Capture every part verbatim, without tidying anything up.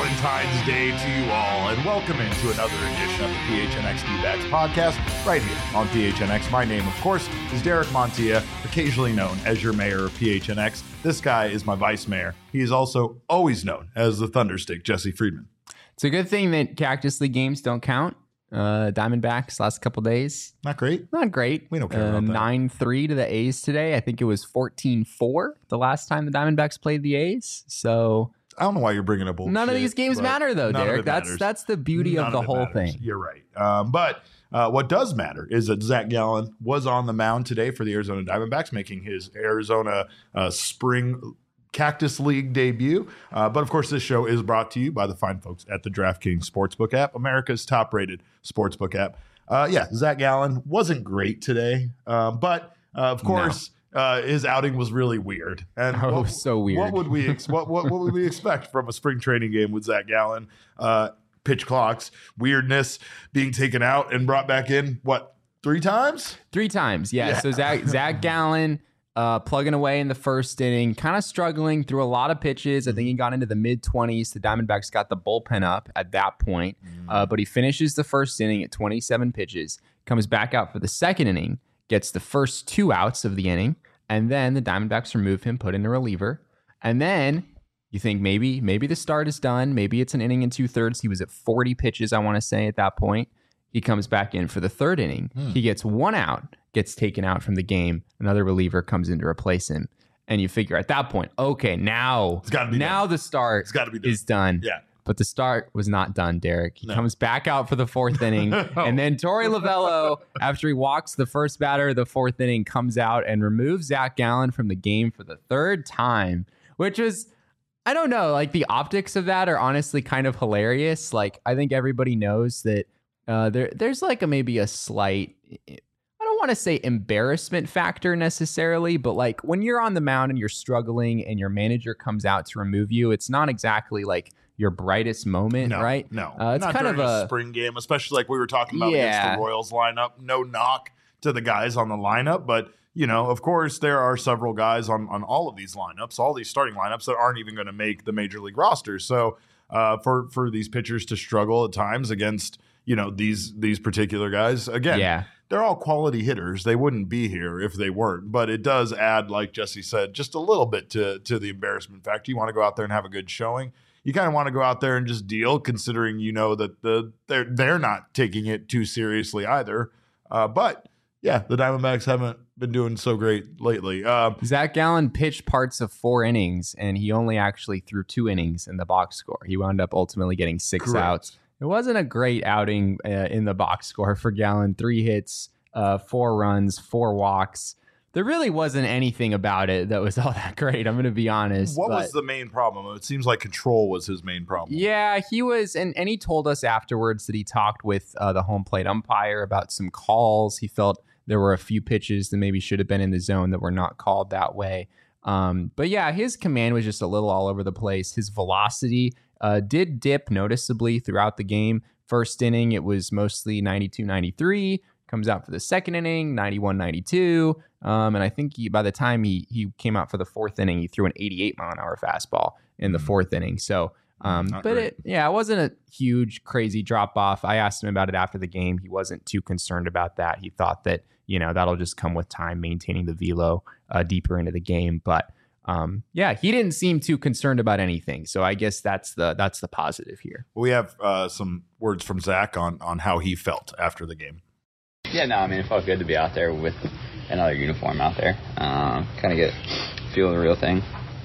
Valentine's Day to you all, and welcome into another edition of the P H N X D-Backs podcast right here on P H N X. My name, of course, is Derek Montilla, occasionally known as your mayor of P H N X. This guy is my vice mayor. He is also always known as the Thunderstick, Jesse Friedman. It's a good thing that Cactus League games don't count. Uh, Diamondbacks last couple days. Not great. Not great. We don't care uh, about that. nine three to the A's today. I think it was fourteen four the last time the Diamondbacks played the A's. So I don't know why you're bringing up bullshit. none of these games matter, though, Derek. That's matters. that's the beauty None of the it whole matters. thing. You're right. Um, but uh, what does matter is that Zach Gallen was on the mound today for the Arizona Diamondbacks, making his Arizona uh, spring Cactus League debut. Uh, but of course, this show is brought to you by the fine folks at the DraftKings Sportsbook app, America's top-rated sportsbook app. Uh, yeah, Zach Gallen wasn't great today, uh, but uh, of course, no. uh, his outing was really weird. And oh, what, so weird. What would we ex- what, what what would we expect from a spring training game with Zach Gallen? Uh, pitch clocks, weirdness, being taken out and brought back in. What, three times? Three times, yeah. Yeah. So Zach Zach Gallen. Uh, plugging away in the first inning, kind of struggling through a lot of pitches. I think he got into the mid-twenties. The Diamondbacks got the bullpen up at that point. Uh, but he finishes the first inning at twenty-seven pitches, comes back out for the second inning, gets the first two outs of the inning, and then the Diamondbacks remove him, put in a reliever. And then you think maybe maybe the start is done. Maybe it's an inning and two-thirds. He was at forty pitches, I want to say, at that point. He comes back in for the third inning. Hmm. He gets one out, gets taken out from the game. Another reliever comes in to replace him. And you figure at that point, okay, now, It's gotta be now done. the start It's gotta be done. is done. Yeah. But the start was not done, Derek. He No. comes back out for the fourth inning. And then Torey Lovello, after he walks the first batter of the fourth inning, comes out and removes Zach Gallen from the game for the third time, which was, I don't know, like the optics of that are honestly kind of hilarious. Like, I think everybody knows that Uh, there, there's like a maybe a slight, I don't want to say embarrassment factor necessarily, but like when you're on the mound and you're struggling and your manager comes out to remove you, it's not exactly like your brightest moment, No, right? No, uh, it's not kind of during a, a spring game, especially like we were talking about against Yeah. the Royals lineup. No knock to the guys on the lineup, but you know, of course, there are several guys on on all of these lineups, all these starting lineups that aren't even going to make the major league roster. So uh, for for these pitchers to struggle at times against, you know, these these particular guys, again, yeah. they're all quality hitters. They wouldn't be here if they weren't. But it does add, like Jesse said, just a little bit to to the embarrassment factor. You want to go out there and have a good showing. You kind of want to go out there and just deal, considering you know that the they're they're not taking it too seriously either. Uh, but yeah, the Diamondbacks haven't been doing so great lately. Uh, Zach Gallen pitched parts of four innings, and he only actually threw two innings in the box score. He wound up ultimately getting six Correct. outs. It wasn't a great outing uh, in the box score for Gallen. Three hits, uh, four runs, four walks. There really wasn't anything about it that was all that great. I'm going to be honest. what but was the main problem? It seems like control was his main problem. Yeah, he was, and, and he told us afterwards that he talked with uh, the home plate umpire about some calls. He felt there were a few pitches that maybe should have been in the zone that were not called that way. Um, but yeah, his command was just a little all over the place. His velocity uh, did dip noticeably throughout the game. First inning, it was mostly ninety-two ninety-three. Comes out for the second inning, ninety-one ninety-two. Um, and I think he, by the time he he came out for the fourth inning, he threw an eighty-eight mile an hour fastball in the fourth inning. So, um, Not but great. it, yeah, it wasn't a huge, crazy drop off. I asked him about it after the game. He wasn't too concerned about that. He thought that, you know, that'll just come with time, maintaining the velo uh, deeper into the game. But um, yeah, he didn't seem too concerned about anything. So I guess that's the that's the positive here. We have uh, some words from Zach on on how he felt after the game. Yeah, no, I mean, it felt good to be out there with another uniform out there. Um, kind of get feel the real thing.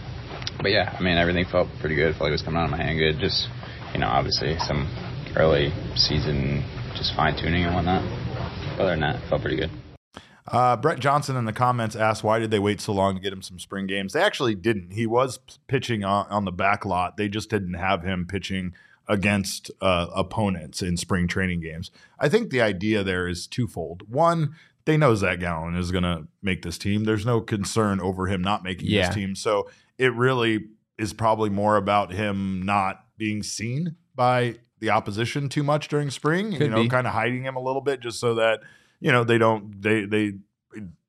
But yeah, I mean, everything felt pretty good. Felt like it was coming out of my hand good. Just, you know, obviously some early season just fine tuning and whatnot. Other than that, it felt pretty good. Uh, Brett Johnson in the comments asked, why did they wait so long to get him some spring games? They actually didn't. He was p- pitching on, on the back lot. They just didn't have him pitching against uh, opponents in spring training games. I think the idea there is twofold. One, they know Zach Gallen is going to make this team. There's no concern over him not making Yeah. this team. So it really is probably more about him not being seen by the opposition too much during spring, Could you know, be. kind of hiding him a little bit just so that, you know, they don't, they, they,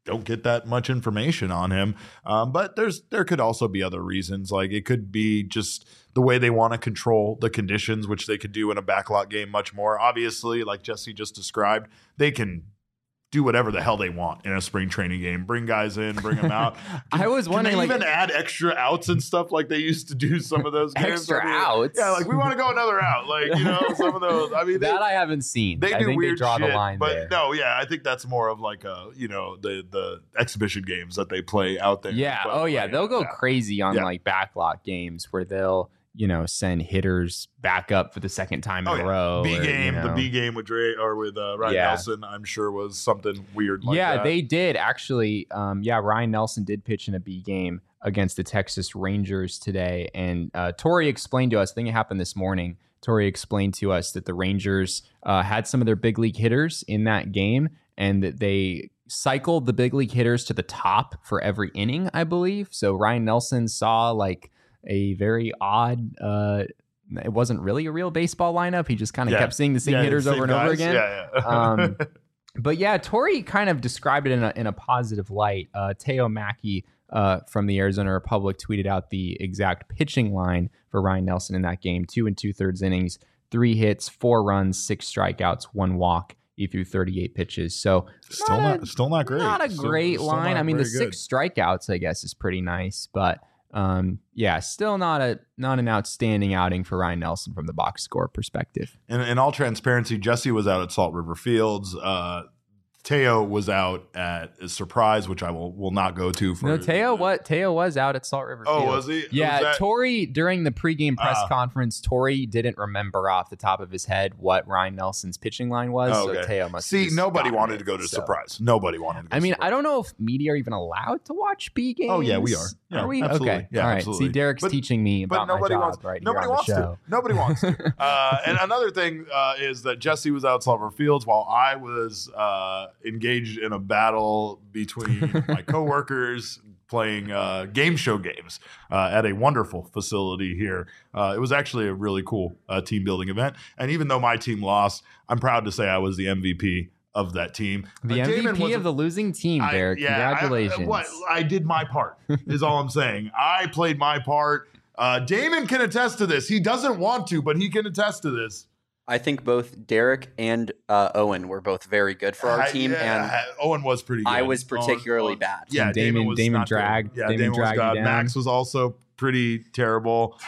don't get that much information on him. Um, but there's there could also be other reasons. Like it could be just the way they want to control the conditions, which they could do in a backlot game much more. Obviously, like Jesse just described, they can do whatever the hell they want in a spring training game. Bring guys in, bring them out. Can, I was wondering, can they like, even add extra outs and stuff like they used to do some of those games. Extra I mean, outs? Yeah, like we want to go another out. Like, you know, some of those. I mean, they, that I haven't seen. they I do think weird they draw shit, the line but there. no, yeah, I think that's more of like a, you know, the the exhibition games that they play out there. Yeah. But, Oh, yeah. like, They'll go yeah. crazy on Yeah. like backlot games where they'll, you know, send hitters back up for the second time in Oh, a yeah. row. B or, game, you the know. B game with Dre or with uh, Ryan Yeah. Nelson, I'm sure was something weird. Like yeah, that. they did actually. Um, yeah, Ryan Nelson did pitch in a B game against the Texas Rangers today, and uh, Tori explained to us. I think it happened this morning. Tori explained to us that the Rangers uh, had some of their big league hitters in that game, and that they cycled the big league hitters to the top for every inning, I believe. So Ryan Nelson saw like a very odd. Uh, it wasn't really a real baseball lineup. He just kind of Yeah. kept seeing the same Yeah, hitters same over and guys. over again. Yeah, yeah. Um, But yeah, Tori kind of described it in a, in a positive light. Uh, Teo Mackey uh, from the Arizona Republic tweeted out the exact pitching line for Ryan Nelson in that game. Two and two thirds innings, three hits, four runs, six strikeouts, one walk. He threw thirty-eight pitches. So still not, a, still not great. Not a Still- great still line. not I mean, the very good. six strikeouts, I guess, is pretty nice. But um, yeah, still not a not an outstanding outing for Ryan Nelson from the box score perspective. In, in all transparency, Jesse was out at Salt River Fields. Uh, Teo was out at a Surprise, which I will will not go to. For No, Teo what Teo was out at Salt River Oh, Field. was he? Yeah, Was that- Tori during the pregame press Ah. conference, Tori didn't remember off the top of his head what Ryan Nelson's pitching line was. Oh, So okay. Teo must have See, just nobody gotten wanted it, to go to so. Surprise. Nobody wanted to go I mean, to I don't know if media are even allowed to watch B games. Oh, yeah, we are. Yeah, are we? absolutely. Okay. Yeah, All right. absolutely. See, Derek's But- teaching me but about my nobody job wants right nobody here on wants the to. show. Nobody wants to. Uh, and another thing uh, is that Jesse was out at Salt River Fields while I was uh, engaged in a battle between my coworkers playing uh, game show games uh, at a wonderful facility here. Uh, it was actually a really cool uh, team building event. And even though my team lost, I'm proud to say I was the M V P of that team. The Uh, Damon M V P was a- of the losing team, I- Derek. yeah, I- Congratulations. what I did my part is all I'm saying. I played my part. Uh, Damon can attest to this. He doesn't want to, but he can attest to this. I think both Derek and uh, Owen were both very good for our I- team, yeah, and Owen was pretty good. I was particularly Owen- bad. Yeah, And Damon- was Damon not good. dragged- Yeah, Damon Damon, was dragged you God. down. Max was also pretty terrible.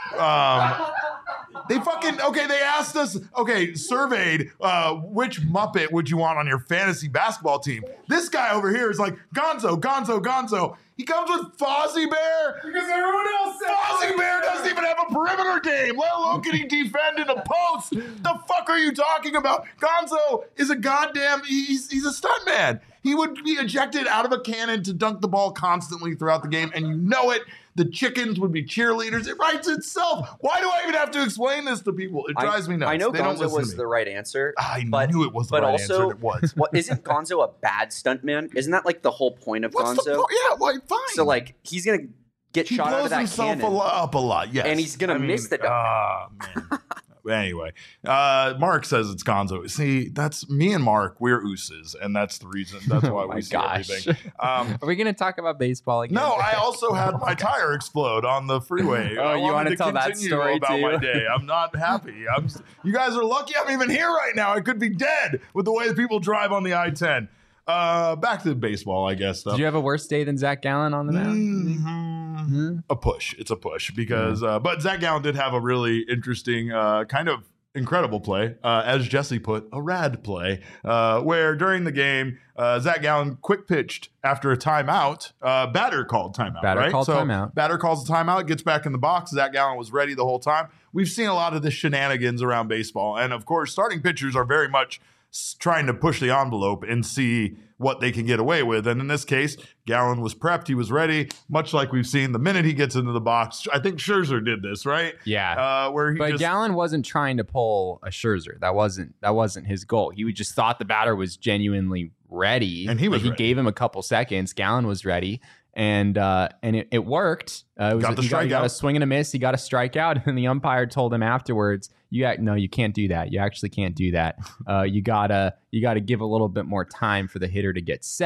Um, they fucking okay. They asked us. Okay, surveyed uh, which Muppet would you want on your fantasy basketball team? This guy over here is like Gonzo, Gonzo, Gonzo. He comes with Fozzie Bear because everyone else said Fozzie Bear doesn't even have a perimeter game, let alone can he defend in a post. The fuck are you talking about? Gonzo is a goddamn. He's he's a stuntman. He would be ejected out of a cannon to dunk the ball constantly throughout the game, and you know it. The chickens would be cheerleaders. It writes itself. Why do I even have to explain this to people? It drives I, me nuts. I know They don't Gonzo listen was to me. the right answer. I but, knew it was the but right also, answer. And it was. What isn't Gonzo a bad stuntman? Isn't that like the whole point of What's the Gonzo? po- yeah, well, fine. So like he's gonna get he shot out blows of that himself cannon. a lo- up a lot. Yes, And he's gonna I mean, miss the dunk. Ah, man. Anyway, uh, Mark says it's Gonzo. See, that's me and Mark. We're ooses, and that's the reason. That's why Oh my we see gosh. everything. Um, Are we going to talk about baseball again? No, I also had my tire explode on the freeway. Oh, I you wanted wanna to tell that continue story about too? my day. I'm not happy. I'm. You guys are lucky I'm even here right now. I could be dead with the way that people drive on the I ten. Uh, back to baseball, I guess. Though. Did you have a worse day than Zach Gallen on the mound? Mhm. A push. It's a push because, uh, but Zach Gallen did have a really interesting, uh, kind of incredible play, uh, as Jesse put, a rad play, uh, where during the game, uh, Zach Gallen quick pitched after a timeout. Uh, batter called timeout. Batter right? called so timeout. Batter calls a timeout, gets back in the box. Zach Gallen was ready the whole time. We've seen a lot of the shenanigans around baseball, and of course, starting pitchers are very much s- trying to push the envelope and see what they can get away with. And in this case, Gallen was prepped. He was ready, much like we've seen the minute he gets into the box. I think Scherzer did this, right? Yeah. Uh, where he But just, Gallen wasn't trying to pull a Scherzer. That wasn't that wasn't his goal. He just thought the batter was genuinely ready, And he was Like, he ready. gave him a couple seconds. Gallen was ready, and uh, and it, it worked. Uh, it was Got the he, got, he got a strikeout. swing and a miss. He got a strikeout, and the umpire told him afterwards, "You got, no, you can't do that. You actually can't do that. Uh, you gotta you gotta give a little bit more time for the hitter to get set."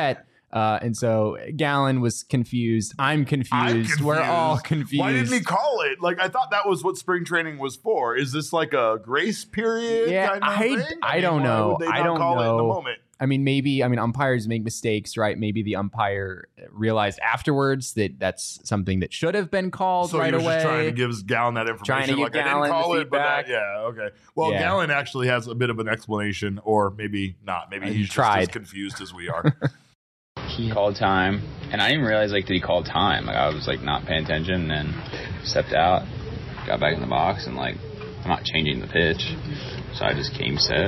Uh, and so Gallen was confused. I'm confused. I'm confused. We're all confused. Why didn't he call it? Like, I thought that was what spring training was for. Is this like a grace period? Yeah, kind of I, thing? I mean, don't why know. would they I not don't call know. it in the moment? I mean, maybe, I mean, umpires make mistakes, right? Maybe the umpire realized afterwards that that's something that should have been called So right he was away. just trying to give Gallen that information. Trying to give like, Gallen I didn't call the it, but that, feedback. yeah, okay. Well, Yeah. Gallen actually has a bit of an explanation, or maybe not. Maybe Uh, he he's just tried. as confused as we are. He called time, and I didn't realize, like, did he call time? Like, I was, like, not paying attention, and stepped out, got back in the box, and, like, I'm not changing the pitch, so I just came set.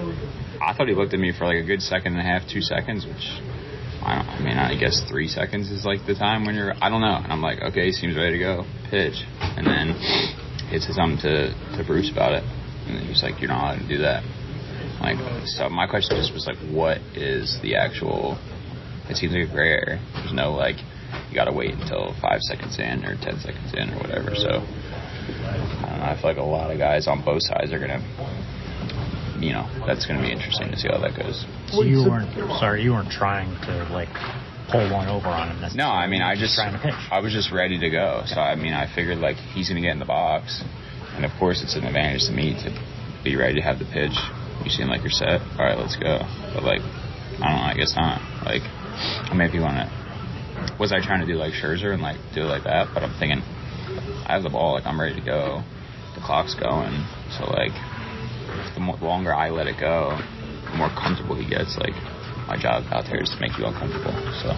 I thought he looked at me for, like, a good second and a half, two seconds, which, I don't, I mean, I guess three seconds is, like, the time when you're, I don't know. And I'm like, okay, he seems ready to go, pitch. And then he said something to, to Bruce about it, and then he was like, you're not allowed to do that. Like, so my question just was, like, what is the actual... It seems like a gray area. There's no, like, you got to wait until five seconds in or ten seconds in or whatever. So, I don't know. I feel like a lot of guys on both sides are going to, you know, that's going to be interesting to see how that goes. So you weren't, sorry, you weren't trying to, like, pull one over on him necessarily. No, I mean, I just, trying to pitch. I was just ready to go. So, I mean, I figured, like, he's going to get in the box. And, of course, it's an advantage to me to be ready to have the pitch. You seem like you're set. All right, let's go. But, like, I don't know. I guess not. Like, I mean, if you want to, was I trying to do like Scherzer and like do it like that? But I'm thinking, I have the ball, like I'm ready to go. The clock's going, so like, the more, longer I let it go, the more comfortable he gets. Like, my job out there is to make you uncomfortable.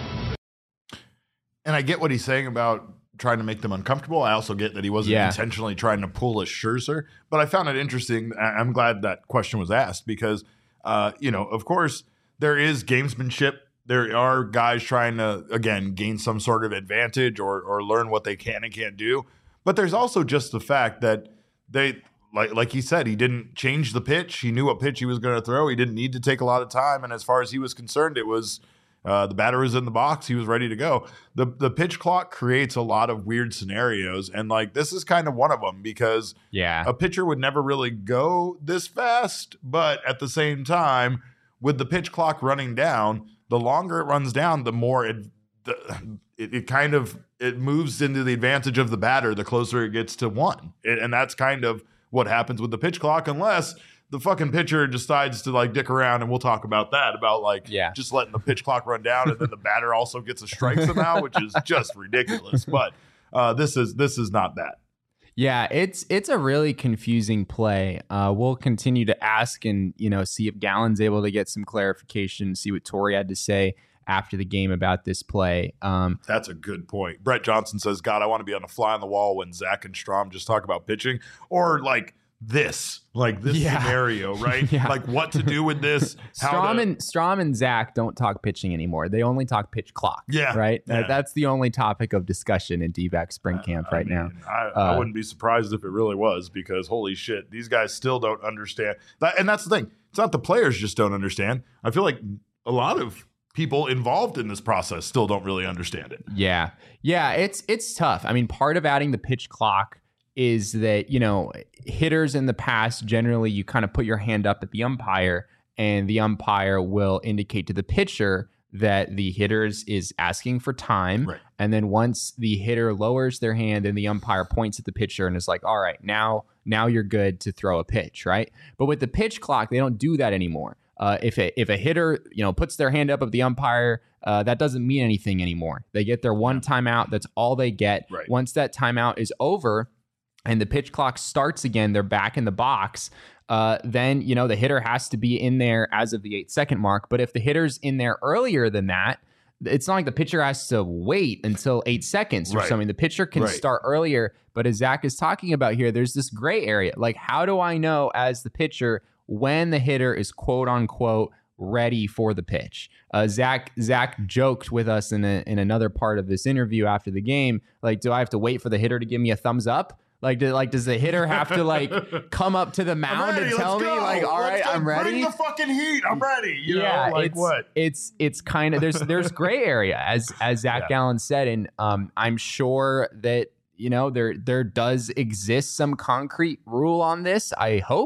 So, And I get what he's saying about trying to make them uncomfortable. I also get that he wasn't Yeah. intentionally trying to pull a Scherzer. But I found it interesting. I- I'm glad that question was asked because, uh, you know, of course, there is gamesmanship. There are guys trying to, again, gain some sort of advantage or or learn what they can and can't do. But there's also just the fact that they, like like he said, he didn't change the pitch. He knew what pitch he was going to throw. He didn't need to take a lot of time. And as far as he was concerned, it was uh, the batter was in the box. He was ready to go. The the pitch clock creates a lot of weird scenarios. And like this is kind of one of them because Yeah. a pitcher would never really go this fast. But at the same time, with the pitch clock running down, the longer it runs down, the more it, the, it it kind of it moves into the advantage of the batter the closer it gets to one. It, and that's kind of what happens with the pitch clock, unless the fucking pitcher decides to like dick around, and we'll talk about that, about like Yeah. just letting the pitch clock run down, and then the batter also gets a strike somehow, which is just ridiculous. But uh, this is this is not that. Yeah, it's it's a really confusing play. Uh, we'll continue to ask and you know see if Gallen's able to get some clarification, see what Torrey had to say after the game about this play. Um, That's a good point. Brett Johnson says, God, I want to be on a fly on the wall when Zach and Strom just talk about pitching, or like this, like this Yeah. scenario, right? Yeah. Like what to do with this. how Strom to- and Strom and Zach don't talk pitching anymore. They only talk pitch clock. Yeah, right. yeah. That, that's the only topic of discussion in D-backs spring camp I right mean, now. I, Uh, I wouldn't be surprised if it really was, because holy shit, these guys still don't understand that. And that's the thing. It's not the players just don't understand. I feel like a lot of people involved in this process still don't really understand it. Yeah. Yeah, it's it's tough. I mean, part of adding the pitch clock is that, you know, hitters in the past, generally you kind of put your hand up at the umpire and the umpire will indicate to the pitcher that the hitters is asking for time. Right. And then once the hitter lowers their hand, then the umpire points at the pitcher and is like, all right, now, now you're good to throw a pitch, right? But with the pitch clock, they don't do that anymore. Uh, if a if a hitter you know puts their hand up at the umpire, uh, that doesn't mean anything anymore. They get their one timeout. That's all they get. Right. Once that timeout is over, and the pitch clock starts again, they're back in the box. Uh, then you know the hitter has to be in there as of the eight second mark. But if the hitter's in there earlier than that, it's not like the pitcher has to wait until eight seconds or Right. something. The pitcher can Right. start earlier. But as Zach is talking about here, there's this gray area. Like, how do I know as the pitcher when the hitter is quote unquote ready for the pitch? Uh, Zach Zach joked with us in a, in another part of this interview after the game. Like, do I have to wait for the hitter to give me a thumbs up? Like, do, like does the hitter have to like come up to the mound ready, and tell let's me go. like, all Let's right, go. I'm ready? Bring the fucking heat. I'm ready. You yeah, know, like it's, what? It's it's kind of there's there's gray area as as Zach Yeah. Gallen said, and um, I'm sure that you know there there does exist some concrete rule on this. I hope.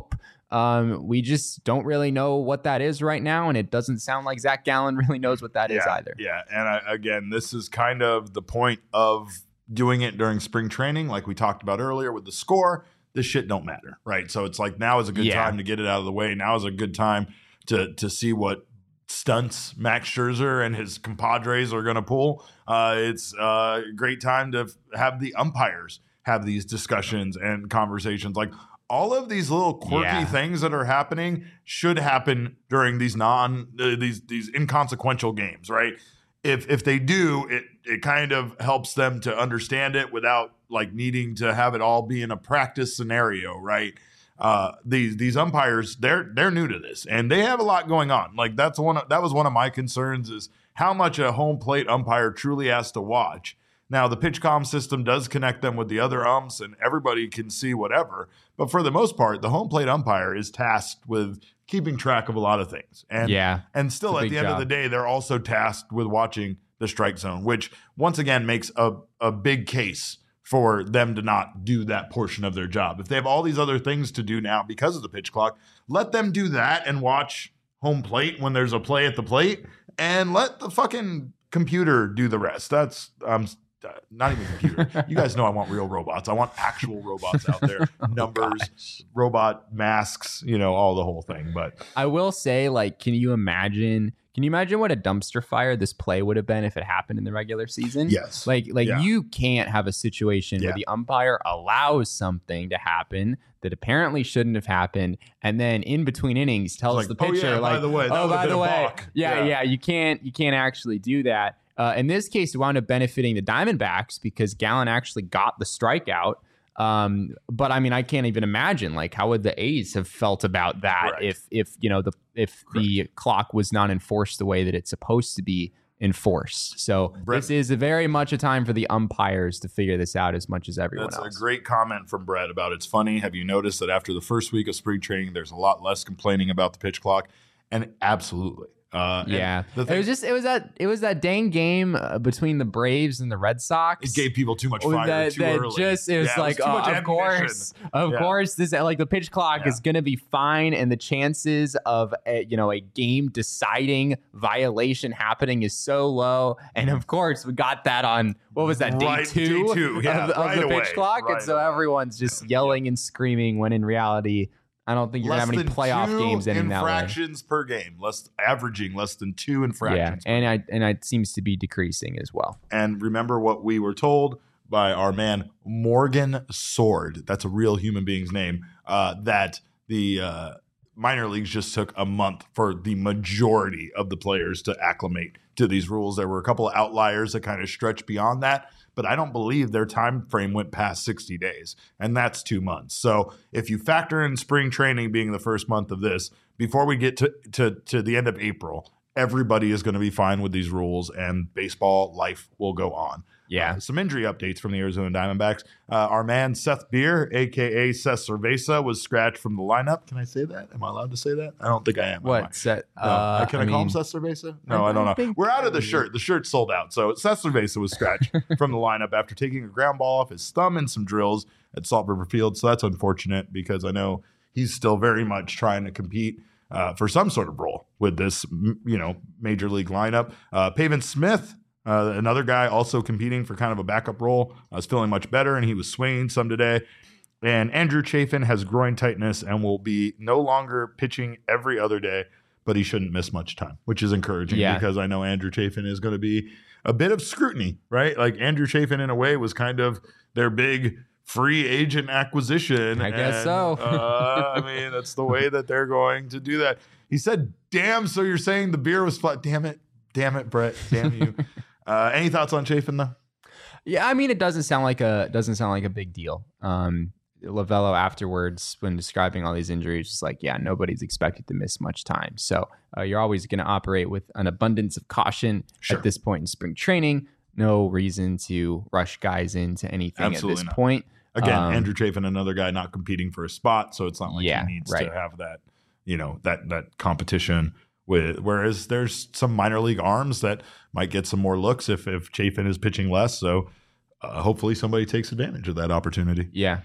Um, we just don't really know what that is right now, and it doesn't sound like Zach Gallen really knows what that yeah, is either. Yeah, and I, again, this is kind of the point of doing it during spring training, like we talked about earlier with the score. This shit don't matter, right? So it's like now is a good Yeah. time to get it out of the way. Now is a good time to to see what stunts Max Scherzer and his compadres are going to pull. Uh, it's a great time to f- have the umpires have these discussions and conversations. Like all of these little quirky Yeah. things that are happening should happen during these non uh, these these inconsequential games, right? If if they do, it it kind of helps them to understand it without like needing to have it all be in a practice scenario, right? Uh, these these umpires, they're they're new to this, and they have a lot going on. Like that's one of, that was one of my concerns is how much a home plate umpire truly has to watch. Now the PitchCom system does connect them with the other umps, and everybody can see whatever. But for the most part, the home plate umpire is tasked with keeping track of a lot of things, and Yeah, and still it's a at big the end of job. the day, they're also tasked with watching the strike zone, which once again makes a a big case for them to not do that portion of their job. If they have all these other things to do now because of the pitch clock, let them do that and watch home plate when there's a play at the plate, and let the fucking computer do the rest. That's um uh, not even computer. You guys know I want real robots. I want actual robots out there. Numbers, gosh. robot masks, you know, all the whole thing. But I will say, like, can you imagine? Can you imagine what a dumpster fire this play would have been if it happened in the regular season? yes, Like, like Yeah. you can't have a situation Yeah. where the umpire allows something to happen that apparently shouldn't have happened, and then in between innings tells like, the "Oh, pitcher, yeah, by like, the way, that "Oh, would've by been the a way, balk." yeah, Yeah. yeah, you can't, you can't actually do that." Uh, in this case, it wound up benefiting the Diamondbacks because Gallen actually got the strikeout. Um, but I mean, I can't even imagine like how would the A's have felt about that Correct. if if you know the if the clock was not enforced the way that it's supposed to be enforced. So Brett- this is a very much a time for the umpires to figure this out as much as everyone That's else. a great comment from Brett about it's funny. Have you noticed that after the first week of spring training, there's a lot less complaining about the pitch clock? And absolutely. Uh, and Yeah, the it thing, was just it was that it was that dang game uh, between the Braves and the Red Sox. it gave people too much Oh, fire that, too that early. just it was Yeah, like too uh, much of ammunition. course of Yeah. course this like the pitch clock Yeah. is going to be fine, and the chances of a, you know a game deciding violation happening is so low, and of course we got that on what was that day Right, two, day two, yeah, of, the- of right the away, pitch clock, right and so away. everyone's just yelling and screaming when in reality I don't think you're gonna Less have any than playoff two games ending that way. infractions per game, less averaging less than two Yeah, infractions. per and I and it seems to be decreasing as well. And remember what we were told by our man Morgan Sword. That's a real human being's name. Uh, that the uh, minor leagues just took a month for the majority of the players to acclimate to these rules. There were a couple of outliers that kind of stretched beyond that, but I don't believe their time frame went past sixty days, and that's two months. So if you factor in spring training being the first month of this, before we get to to, to the end of April, everybody is going to be fine with these rules, and baseball life will go on. Yeah. Uh, some injury updates from the Arizona Diamondbacks. Uh, our man Seth Beer, a k a. Seth Cerveza, was scratched from the lineup. Can I say that? Am I allowed to say that? I don't think I am. am I? What set? No. Uh, Can I, call him mean, Seth Cerveza? No, I I don't know. think- We're out of the shirt. The shirt's sold out. So Seth Cerveza was scratched from the lineup after taking a ground ball off his thumb in some drills at Salt River Field. So that's unfortunate because I know he's still very much trying to compete uh, for some sort of role with this, m- you know, major league lineup. Uh, Pavin Smith, uh, another guy also competing for kind of a backup role, uh, is feeling much better, and he was swinging some today. And Andrew Chafin has groin tightness and will be no longer pitching every other day, but he shouldn't miss much time, which is encouraging Yeah. because I know Andrew Chafin is going to be a bit of scrutiny, right? Like Andrew Chafin, in a way, was kind of their big free agent acquisition. I guess And, so. uh, I mean, that's the way that they're going to do that. He said, damn, so you're saying the beer was flat. Damn it. Damn it, Brett. Damn you. uh, any thoughts on Chafin, though? Yeah, I mean, it doesn't sound like a doesn't sound like a big deal. Um, Lavello afterwards, when describing all these injuries, is like, yeah, nobody's expected to miss much time. So uh, you're always going to operate with an abundance of caution Sure. at this point in spring training. No reason to rush guys into anything Absolutely at this not. point. Again, Um, Andrew Chafin, another guy not competing for a spot, so it's not like Yeah, he needs right. to have that, you know, that that competition with. Whereas there's some minor league arms that might get some more looks if if Chafin is pitching less. So uh, hopefully somebody takes advantage of that opportunity. Yeah.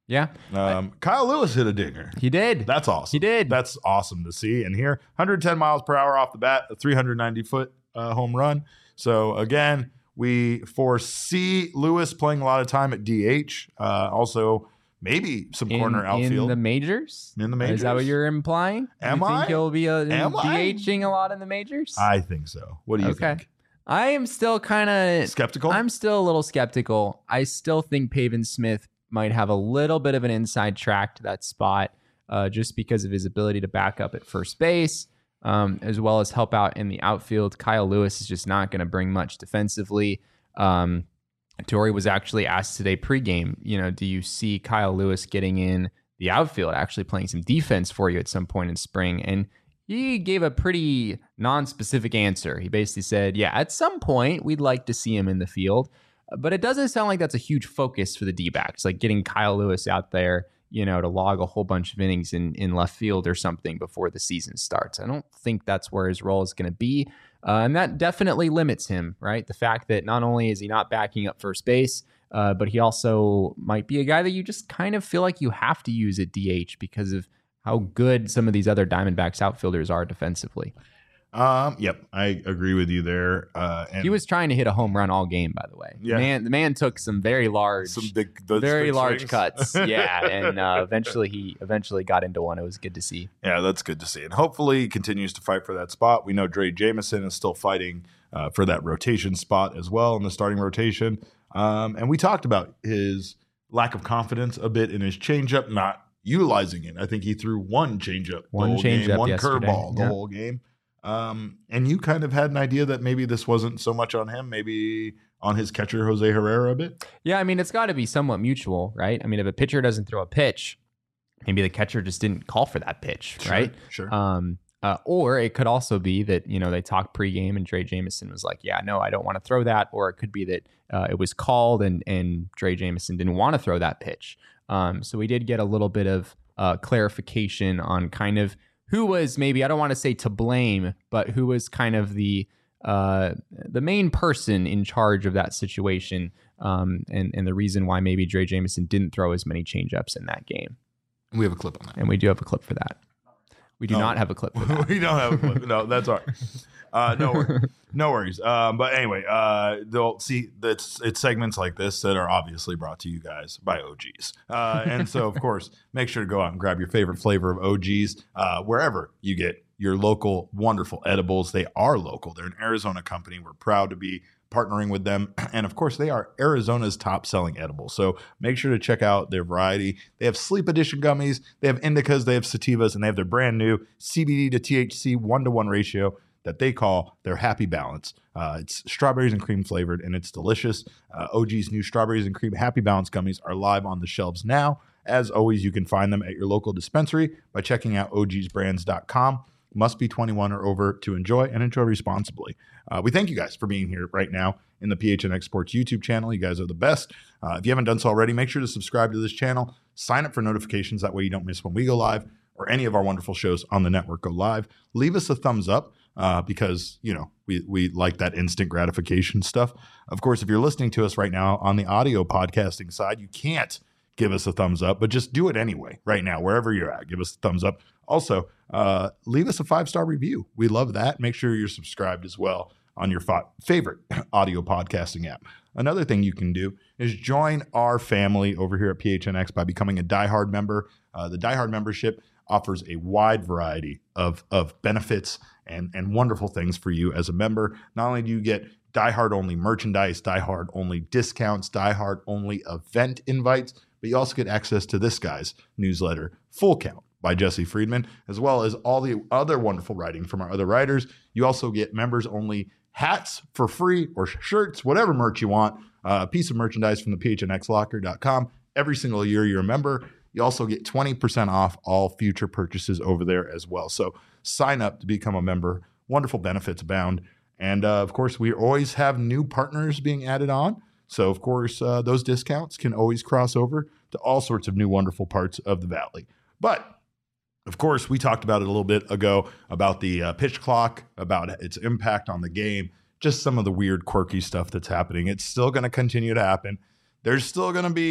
Yeah. Um, Kyle Lewis hit a dinger. He did. That's awesome. He did. That's awesome to see. And here, one hundred ten miles per hour off the bat, a three hundred ninety foot uh, home run. So again, we foresee Lewis playing a lot of time at D H. Uh, also, maybe some in, corner outfield. In the majors? In the majors? Is that what you're implying? Am you think I? he'll be uh, Am I? DHing a lot in the majors? I think so. What do you okay. think? I am still kind of Skeptical? I'm still a little skeptical. I still think Pavin Smith might have a little bit of an inside track to that spot uh, just because of his ability to back up at first base, um, as well as help out in the outfield. Kyle Lewis is just not going to bring much defensively. Um, Torey was actually asked today pregame, you know, do you see Kyle Lewis getting in the outfield, actually playing some defense for you at some point in spring? And he gave a pretty non-specific answer. He basically said, yeah, at some point we'd like to see him in the field, but it doesn't sound like that's a huge focus for the D-backs, like getting Kyle Lewis out there, you know, to log a whole bunch of innings in, in left field or something before the season starts. I don't think that's where his role is going to be. Uh, and that definitely limits him, right? The fact that not only is he not backing up first base, uh, but he also might be a guy that you just kind of feel like you have to use at D H because of how good some of these other Diamondbacks outfielders are defensively. Um, yep, I agree with you there. Uh, and He was trying to hit a home run all game, by the way. Yeah. The man, the man took some very large, some big, those very big large swings. cuts. Yeah, and uh, eventually he eventually got into one. It was good to see. Yeah, that's good to see. And hopefully he continues to fight for that spot. We know Dre Jameson is still fighting uh, for that rotation spot as well in the starting rotation. Um, and we talked about his lack of confidence a bit in his changeup, not utilizing it. I think he threw one changeup, One the whole changeup game, one yesterday. curveball the Yeah. whole game. Um, and you kind of had an idea that maybe this wasn't so much on him, maybe on his catcher, Jose Herrera, a bit. Yeah, I mean, it's got to be somewhat mutual, right? I mean, if a pitcher doesn't throw a pitch, maybe the catcher just didn't call for that pitch, Sure, right? sure. Um, uh, or it could also be that, you know, they talked pregame and Dre Jameson was like, yeah, no, I don't want to throw that. Or it could be that uh, it was called and, and Dre Jameson didn't want to throw that pitch. Um, so we did get a little bit of uh, clarification on kind of who was maybe, I don't want to say to blame, but who was kind of the uh, the main person in charge of that situation, um, and, and the reason why maybe Dre Jameson didn't throw as many changeups in that game. We have a clip on that. And we do have a clip for that. We do No. not have a clip for that. We don't have a clip. No, that's all right. Uh, no, wor- no worries. Um, but anyway, uh, they'll see that's it's segments like this that are obviously brought to you guys by O Gs. Uh, and so, of course, make sure to go out and grab your favorite flavor of O Gs uh, wherever you get your local wonderful edibles. They are local. They're an Arizona company. We're proud to be partnering with them. And of course, they are Arizona's top selling edible. So make sure to check out their variety. They have sleep edition gummies, they have indicas, they have sativas, and they have their brand new C B D to T H C one to one ratio that they call their happy balance. Uh, it's strawberries and cream flavored, and it's delicious. Uh, O G's new strawberries and cream happy balance gummies are live on the shelves now. As always, you can find them at your local dispensary by checking out O Gs brands dot com. Must be twenty-one or over to enjoy, and enjoy responsibly. Uh, we thank you guys for being here right now in the P H N X Sports YouTube channel. You guys are the best. Uh, if you haven't done so already, make sure to subscribe to this channel. Sign up for notifications. That way you don't miss when we go live or any of our wonderful shows on the network go live. Leave us a thumbs up uh, because, you know, we, we like that instant gratification stuff. Of course, if you're listening to us right now on the audio podcasting side, you can't give us a thumbs up, but just do it anyway right now, wherever you're at. Give us a thumbs up. Also, uh, leave us a five-star review. We love that. Make sure you're subscribed as well on your fa- favorite audio podcasting app. Another thing you can do is join our family over here at P H N X by becoming a diehard member. Uh, the diehard membership offers a wide variety of, of benefits and, and wonderful things for you as a member. Not only do you get diehard only merchandise, diehard only discounts, diehard only event invites, but you also get access to this guy's newsletter, Full Count by Jesse Friedman, as well as all the other wonderful writing from our other writers. You also get members only hats for free or shirts, whatever merch you want, uh, a piece of merchandise from the P H N X locker dot com. Every single year you're a member, you also get twenty percent off all future purchases over there as well. So sign up to become a member. Wonderful benefits abound. And uh, of course, we always have new partners being added on. So of course, uh, those discounts can always cross over to all sorts of new wonderful parts of the Valley. But of course, we talked about it a little bit ago about the uh, pitch clock, about its impact on the game, just some of the weird, quirky stuff that's happening. It's still going to continue to happen. There's still going to be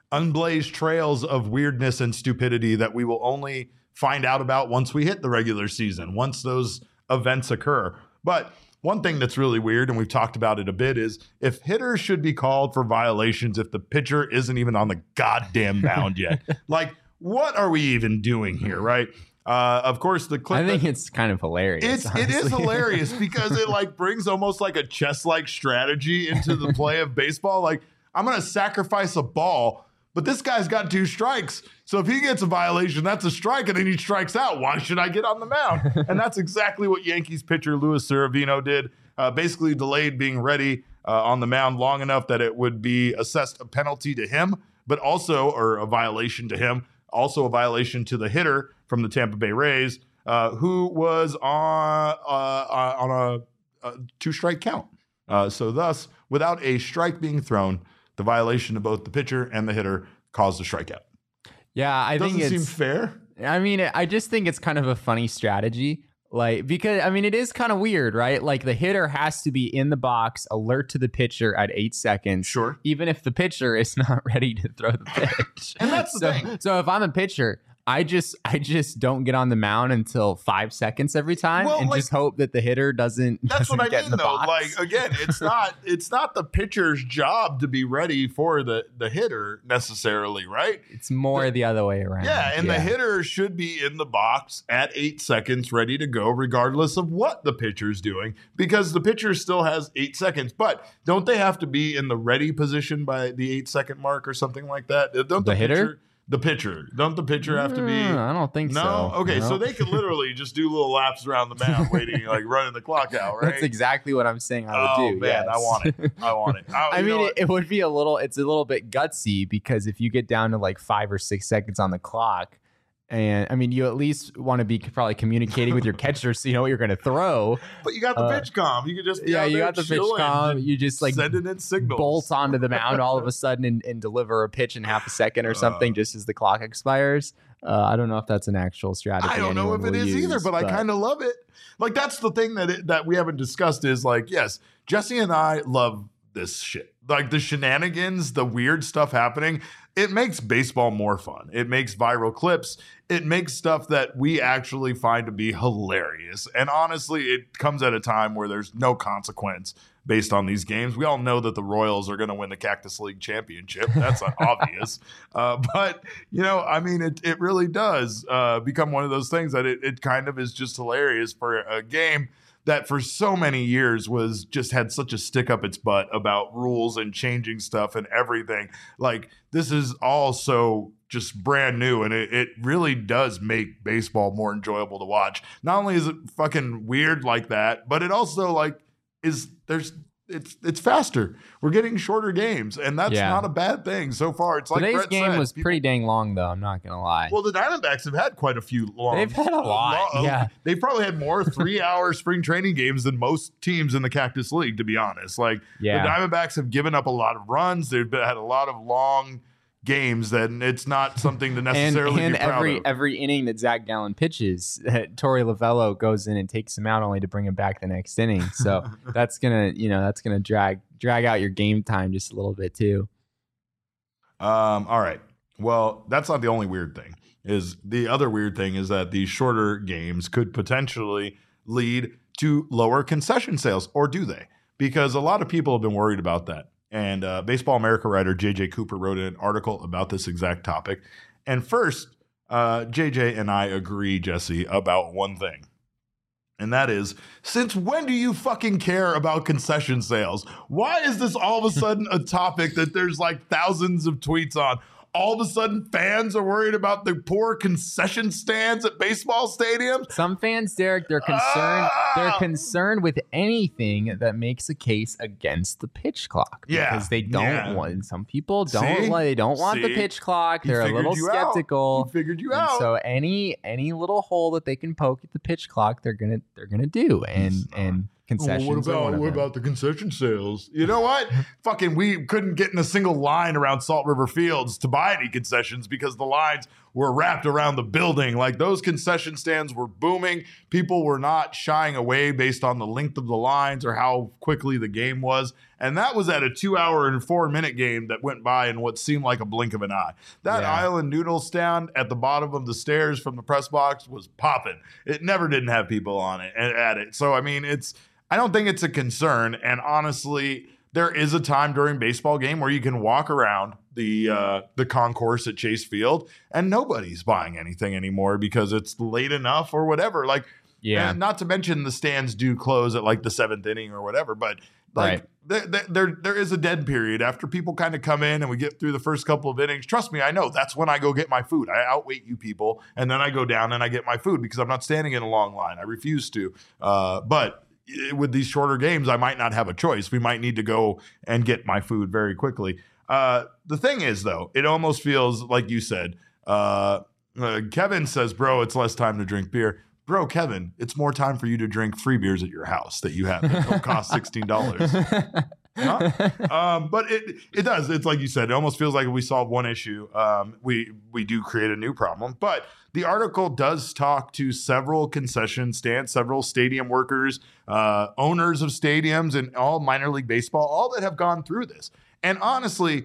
unblazed trails of weirdness and stupidity that we will only find out about once we hit the regular season, once those events occur. But one thing that's really weird, and we've talked about it a bit, is if hitters should be called for violations if the pitcher isn't even on the goddamn mound yet. Like, what are we even doing here, right? Uh, of course, the clip. I think it's kind of hilarious. It's honestly. it is hilarious because it like brings almost like a chess-like strategy into the play of baseball. Like, I'm gonna sacrifice a ball, but this guy's got two strikes. So if he gets a violation, that's a strike, and then he strikes out. Why should I get on the mound? And that's exactly what Yankees pitcher Luis Severino did. Uh, basically delayed being ready uh, on the mound long enough that it would be assessed a penalty to him, but also, or a violation to him, also a violation to the hitter from the Tampa Bay Rays, uh, who was on, uh, on a, a two-strike count. Uh, so thus, without a strike being thrown, the violation to both the pitcher and the hitter caused a strikeout. Yeah, I Doesn't think it's seem fair. I mean, I just think it's kind of a funny strategy. Like, because I mean, it is kind of weird, right? Like, the hitter has to be in the box, alert to the pitcher at eight seconds. Sure. Even if the pitcher is not ready to throw the pitch. And that's the so, thing. So if I'm a pitcher, I just I just don't get on the mound until five seconds every time, Well, and like, just hope that the hitter doesn't. That's doesn't what I get mean, in the though. box. Like, again, it's not it's not the pitcher's job to be ready for the the hitter necessarily, right? It's more the, the other way around. Yeah, and yeah. the hitter should be in the box at eight seconds, ready to go, regardless of what the pitcher's doing, because the pitcher still has eight seconds. But don't they have to be in the ready position by the eight second mark or something like that? Don't the, the hitter? Pitcher, The pitcher. Don't the pitcher have to be? I don't think no? so. No? Okay, no. so they could literally just do little laps around the mound, waiting, like running the clock out, right? That's exactly what I'm saying I would oh, do. man, yes. I want it. I want it. I, I mean, it, it would be a little, it's a little bit gutsy because if you get down to like five or six seconds on the clock, and I mean, you at least want to be probably communicating with your catcher so you know what you're going to throw. But you got the uh, pitch comm. You could just be yeah, out you there got the pitch chilling comm. and You just like sending in signals. bolt onto the mound all of a sudden and, and deliver a pitch in half a second or something, Uh, just as the clock expires. Uh, I don't know if that's an actual strategy. I don't know if it is use, either, but, but I kind of love it. Like, that's the thing that it, that we haven't discussed is like, yes, Jesse and I love this shit. Like the shenanigans, the weird stuff happening. It makes baseball more fun. It makes viral clips. It makes stuff that we actually find to be hilarious. And honestly, it comes at a time where there's no consequence based on these games. We all know that the Royals are going to win the Cactus League championship. That's obvious. Uh, but, you know, I mean, it, it really does uh, become one of those things that it, it kind of is just hilarious for a game that for so many years was just had such a stick up its butt about rules and changing stuff and everything. Like, this is all so just brand new, and it, it really does make baseball more enjoyable to watch. Not only is it fucking weird like that, but it also like is there's it's it's faster. We're getting shorter games, and that's yeah. not a bad thing so far. It's like today's Brett game said, was people, pretty dang long, though. I'm not gonna lie. Well, the Diamondbacks have had quite a few long. They've had a lot. Long, yeah, they've probably had more three-hour spring training games than most teams in the Cactus League. To be honest, like yeah. the Diamondbacks have given up a lot of runs. They've been, had a lot of long games that it's not something to necessarily and, and be proud every of. every inning that Zach Gallen pitches, Torey Lovello goes in and takes him out only to bring him back the next inning. So that's gonna you know that's gonna drag drag out your game time just a little bit too. Um. All right. Well, that's not the only weird thing. Is the other weird thing is that these shorter games could potentially lead to lower concession sales, or do they? Because a lot of people have been worried about that. And uh, Baseball America writer J J Cooper wrote an article about this exact topic. And first, uh, J J and I agree, Jesse, about one thing. And that is, since when do you fucking care about concession sales? Why is this all of a sudden a topic that there's like thousands of tweets on? All of a sudden, fans are worried about the poor concession stands at baseball stadiums. Some fans, Derek, they're concerned. Ah! They're concerned with anything that makes a case against the pitch clock. Yeah, because they don't yeah. want. Some people don't. See? Like, they don't want See? the pitch clock. He They're a little you skeptical. Out. He figured you and out. So any any little hole that they can poke at the pitch clock, they're gonna they're gonna do. And and. Concessions. Well, what about what about the concession sales? You know what? Fucking, we couldn't get in a single line around Salt River Fields to buy any concessions because the lines were wrapped around the building. Like those concession stands were booming. People were not shying away based on the length of the lines or how quickly the game was. And that was at a two hour and four minute game that went by in what seemed like a blink of an eye. That Yeah. Island Noodle stand at the bottom of the stairs from the press box was popping. It never didn't have people on it at it. So, I mean, it's, I don't think it's a concern. And honestly, there is a time during baseball game where you can walk around the uh, the concourse at Chase Field and nobody's buying anything anymore because it's late enough or whatever. Like, Yeah. and not to mention the stands do close at like the seventh inning or whatever, but like Right. there, there, there there is a dead period after people kind of come in and we get through the first couple of innings. Trust me, I know that's when I go get my food. I outwait you people, and then I go down and I get my food because I'm not standing in a long line. I refuse to. Uh, but with these shorter games, I might not have a choice. We might need to go and get my food very quickly. Uh, the thing is, though, it almost feels like you said. Uh, uh, Kevin says, "Bro, it's less time to drink beer." Bro, Kevin, it's more time for you to drink free beers at your house that you have that don't cost sixteen dollars. Huh? Um, but it it does. It's like you said. It almost feels like if we solve one issue, um, we we do create a new problem. But the article does talk to several concession stands, several stadium workers, uh, owners of stadiums, and all minor league baseball, all that have gone through this. And honestly,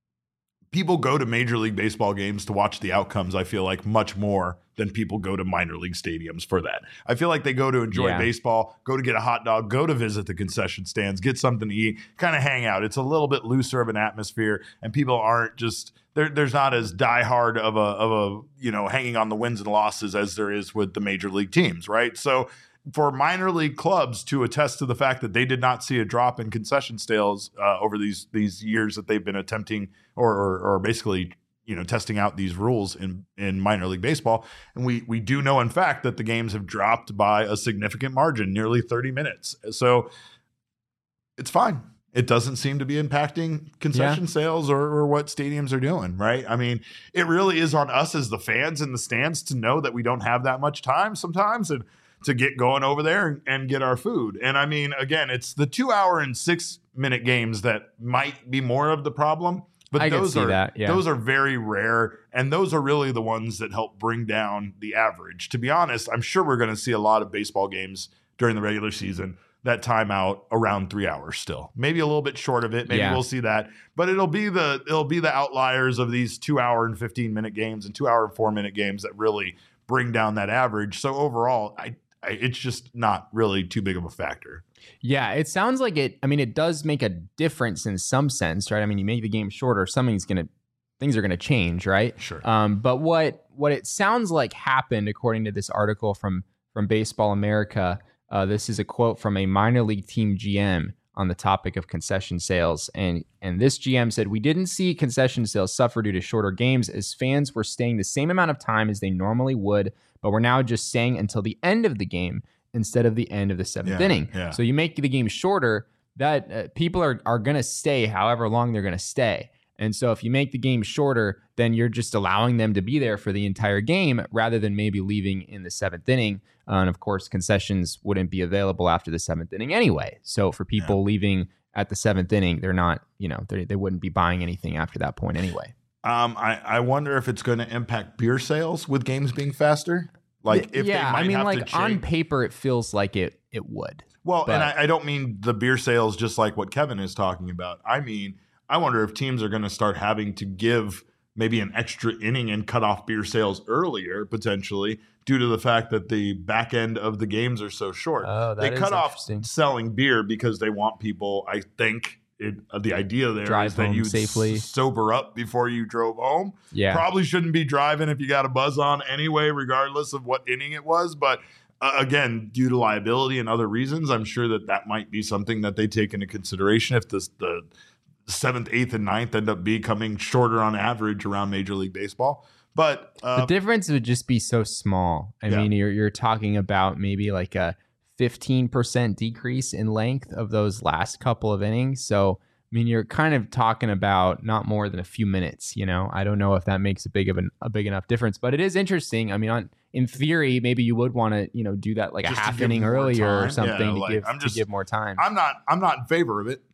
people go to Major League Baseball games to watch the outcomes, I feel like, much more than people go to minor league stadiums for that. I feel like they go to enjoy Yeah. baseball, go to get a hot dog, go to visit the concession stands, get something to eat, kind of hang out. It's a little bit looser of an atmosphere, and people aren't just there. There's not as diehard of a of a you know hanging on the wins and losses as there is with the major league teams, right? So for minor league clubs to attest to the fact that they did not see a drop in concession sales uh, over these these years that they've been attempting or, or or basically you know testing out these rules in in minor league baseball, and we we do know in fact that the games have dropped by a significant margin, nearly thirty minutes. So it's fine. It doesn't seem to be impacting concession Yeah. sales or, or what stadiums are doing, right? I mean, it really is on us as the fans in the stands to know that we don't have that much time sometimes and to get going over there and, and get our food. And I mean, again, it's the two hour and six minute games that might be more of the problem. But I can those see are that, yeah. those are very rare, and those are really the ones that help bring down the average. To be honest, I'm sure we're going to see a lot of baseball games during the regular season that time out around three hours still, maybe a little bit short of it. Maybe Yeah. we'll see that, but it'll be the it'll be the outliers of these two hour and fifteen minute games and two hour and four minute games that really bring down that average. So overall, I, I it's just not really too big of a factor. Yeah, it sounds like it. I mean, it does make a difference in some sense, right? I mean, you make the game shorter, something's gonna, things are gonna change, right? Sure. Um, but what what it sounds like happened, according to this article from from Baseball America, uh, this is a quote from a minor league team G M on the topic of concession sales, and and this G M said, "We didn't see concession sales suffer due to shorter games, as fans were staying the same amount of time as they normally would, but we're now just staying until the end of the game instead of the end of the seventh Yeah, inning. yeah. So you make the game shorter, that uh, people are, are going to stay however long they're going to stay. And so if you make the game shorter, then you're just allowing them to be there for the entire game rather than maybe leaving in the seventh inning. Uh, and of course, concessions wouldn't be available after the seventh inning anyway. So for people Yeah. leaving at the seventh inning, they're not, you know, they they wouldn't be buying anything after that point anyway. Um, I, I wonder if it's going to impact beer sales with games being faster. Like if yeah, they might I mean, have like to on change. paper, it feels like it it would. Well, but- and I, I don't mean the beer sales just like what Kevin is talking about. I mean, I wonder if teams are going to start having to give maybe an extra inning and cut off beer sales earlier, potentially, due to the fact that the back end of the games are so short. Oh, that they is cut off interesting. selling beer because they want people, I think, it, uh, the idea there Drive is that home you safely. sober up before you drove home. Yeah. Probably shouldn't be driving if you got a buzz on anyway, regardless of what inning it was. But uh, again, due to liability and other reasons, I'm sure that that might be something that they take into consideration if this, the seventh, eighth, and ninth end up becoming shorter on average around Major League Baseball. But uh, The difference would just be so small. I Yeah. mean, you're you're talking about maybe like a fifteen percent decrease in length of those last couple of innings. So, I mean, you're kind of talking about not more than a few minutes, you know. I don't know if that makes a big of an, a big enough difference, but it is interesting. I mean, on in theory, maybe you would want to, you know, do that like Just a to half give inning more earlier time. or something Yeah, to like, give I'm just- to give more time. I'm not I'm not in favor of it.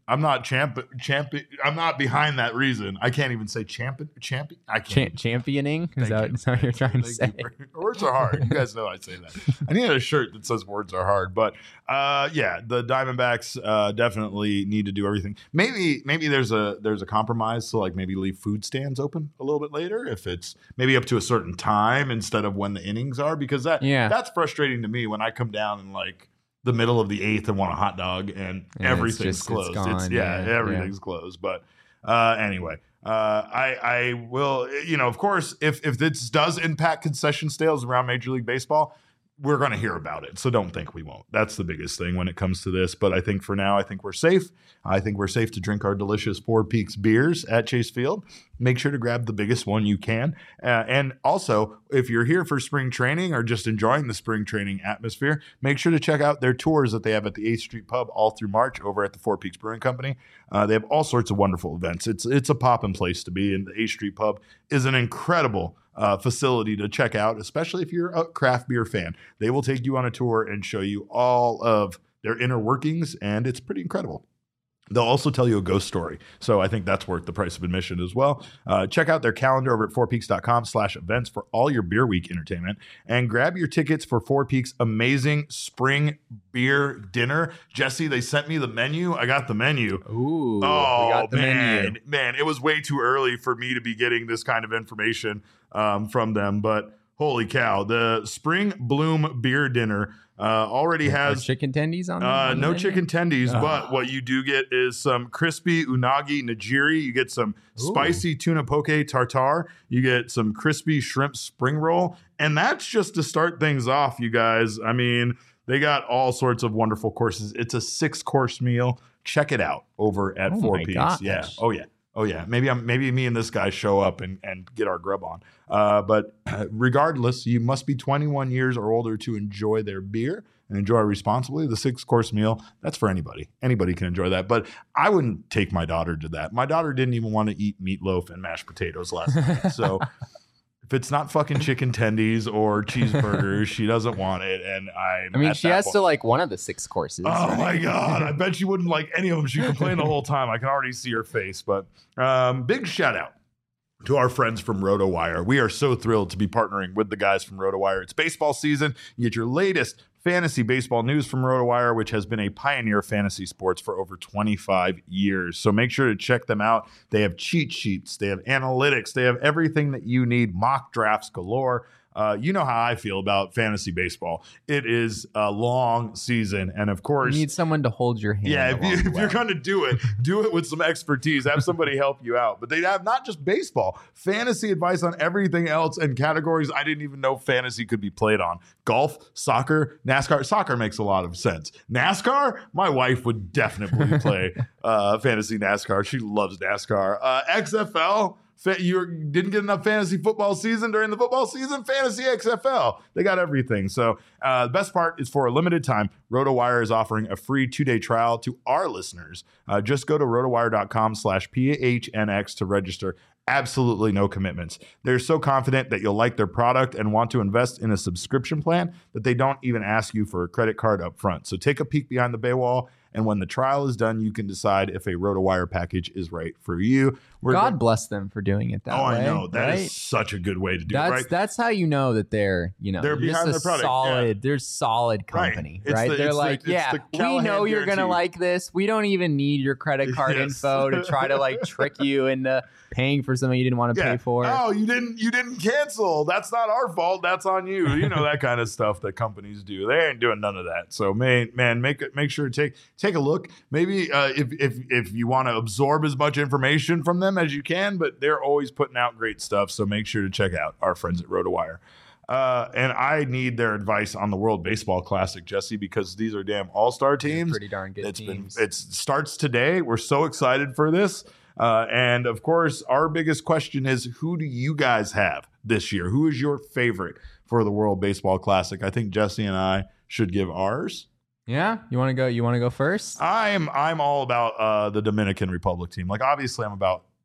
I'm not champ champion. I'm not behind that reason. I can't even say champion. Champion. I can't. Cha- championing? Is Thank that, you. is that what you're trying to Thank say? you for- words are hard. You guys know I say that. I need a shirt that says words are hard. But uh, yeah, the Diamondbacks uh, definitely need to do everything. Maybe maybe there's a there's a compromise. So like maybe leave food stands open a little bit later if it's maybe up to a certain time instead of when the innings are, because that Yeah. that's frustrating to me when I come down and like the middle of the eighth and want a hot dog and Yeah, it's everything's just- it's closed. It's, gone, yeah, yeah, everything's closed. But uh, anyway, uh, I I will, you know, of course, if if this does impact concession sales around Major League Baseball, we're going to hear about it. So don't think we won't. That's the biggest thing when it comes to this. But I think for now, I think we're safe. I think we're safe to drink our delicious Four Peaks beers at Chase Field. Make sure to grab the biggest one you can. Uh, and also, if you're here for spring training or just enjoying the spring training atmosphere, make sure to check out their tours that they have at the eighth Street Pub all through March over at the Four Peaks Brewing Company. Uh, they have all sorts of wonderful events. It's it's a poppin' place to be, and the eighth Street Pub is an incredible uh, facility to check out, especially if you're a craft beer fan. They will take you on a tour and show you all of their inner workings, and it's pretty incredible. They'll also tell you a ghost story. So I think that's worth the price of admission as well. Uh, check out their calendar over at fourpeaks.com slash events for all your Beer Week entertainment. And grab your tickets for Four Peaks' amazing spring beer dinner. Jesse, they sent me the menu. I got the menu. Ooh, Oh, we got the man. menu. Man, it was way too early for me to be getting this kind of information um, from them. But holy cow, the Spring Bloom Beer Dinner uh, already Are has chicken tendies on, the, uh, on the no menu? chicken tendies, Oh. but what you do get is some crispy unagi nigiri. You get some Ooh. spicy tuna poke tartare. You get some crispy shrimp spring roll. And that's just to start things off, you guys. I mean, they got all sorts of wonderful courses. It's a six course meal. Check it out over at Oh Four my Peaks. gosh. Yeah. Oh, yeah. Oh yeah, maybe I'm maybe me and this guy show up and, and get our grub on. Uh, but regardless, you must be twenty-one years or older to enjoy their beer and enjoy responsibly. The six course meal, that's for anybody. Anybody can enjoy that. But I wouldn't take my daughter to that. My daughter didn't even want to eat meatloaf and mashed potatoes last night. So if it's not fucking chicken tendies or cheeseburgers, she doesn't want it. And I'm I mean, at she that has point. to like one of the six courses. Oh right? my god! I bet she wouldn't like any of them. She complained the whole time. I can already see her face. But um, big shout out to our friends from RotoWire. We are so thrilled to be partnering with the guys from RotoWire. It's baseball season. You get your latest fantasy baseball news from RotoWire, which has been a pioneer of fantasy sports for over twenty-five years. So make sure to check them out. They have cheat sheets, they have analytics, they have everything that you need, mock drafts galore. Uh, you know how I feel about fantasy baseball. It is a long season. And of You course, need someone to hold your hand. yeah, if, you, along the if you're way. going to do it, do it with some expertise. Have somebody help you out. But they have not just baseball, fantasy advice on everything else and categories I didn't even know fantasy could be played on. Golf, soccer, NASCAR. Soccer makes a lot of sense. NASCAR, my wife would definitely play uh, fantasy NASCAR. She loves NASCAR. Uh, X F L. You didn't get enough fantasy football season during the football season? Fantasy X F L. They got everything. So uh, the best part is for a limited time, RotoWire is offering a free two-day trial to our listeners. Uh, just go to rotowire.com slash PHNX to register. Absolutely no commitments. They're so confident that you'll like their product and want to invest in a subscription plan that they don't even ask you for a credit card up front. So take a peek behind the paywall, and when the trial is done, you can decide if a RotoWire package is right for you. We're God go- bless them for doing it that oh, way. I know. That is right? such a good way to do That's it, right? that's how you know that they're you know They're just behind a their product, solid. yeah. They're solid Right. company, It's right? the- they're it's the- like, it's yeah, the we Callahan know you're gonna guarantee. like this. We don't even need your credit card Yes. info to try to like trick you into paying for something you didn't want to Yeah. pay for. Oh, you didn't you didn't cancel. That's not our fault. That's on you. You know that kind of stuff that companies do. They ain't doing none of that. So man, man, make it make sure to take take a look. Maybe uh, if if if you want to absorb as much information from them as you can, but they're always putting out great stuff. So make sure to check out our friends at RotoWire. Uh, and I need their advice on the World Baseball Classic, Jesse, because these are damn all-star teams. Pretty darn good It's teams. been it starts today. We're so excited for this. Uh, and of course, our biggest question is, who do you guys have this year? Who is your favorite for the World Baseball Classic? I think Jesse and I should give ours. yeah, you want to go? You want to go first? I'm I'm all about uh, the Dominican Republic team. Like, obviously, I'm about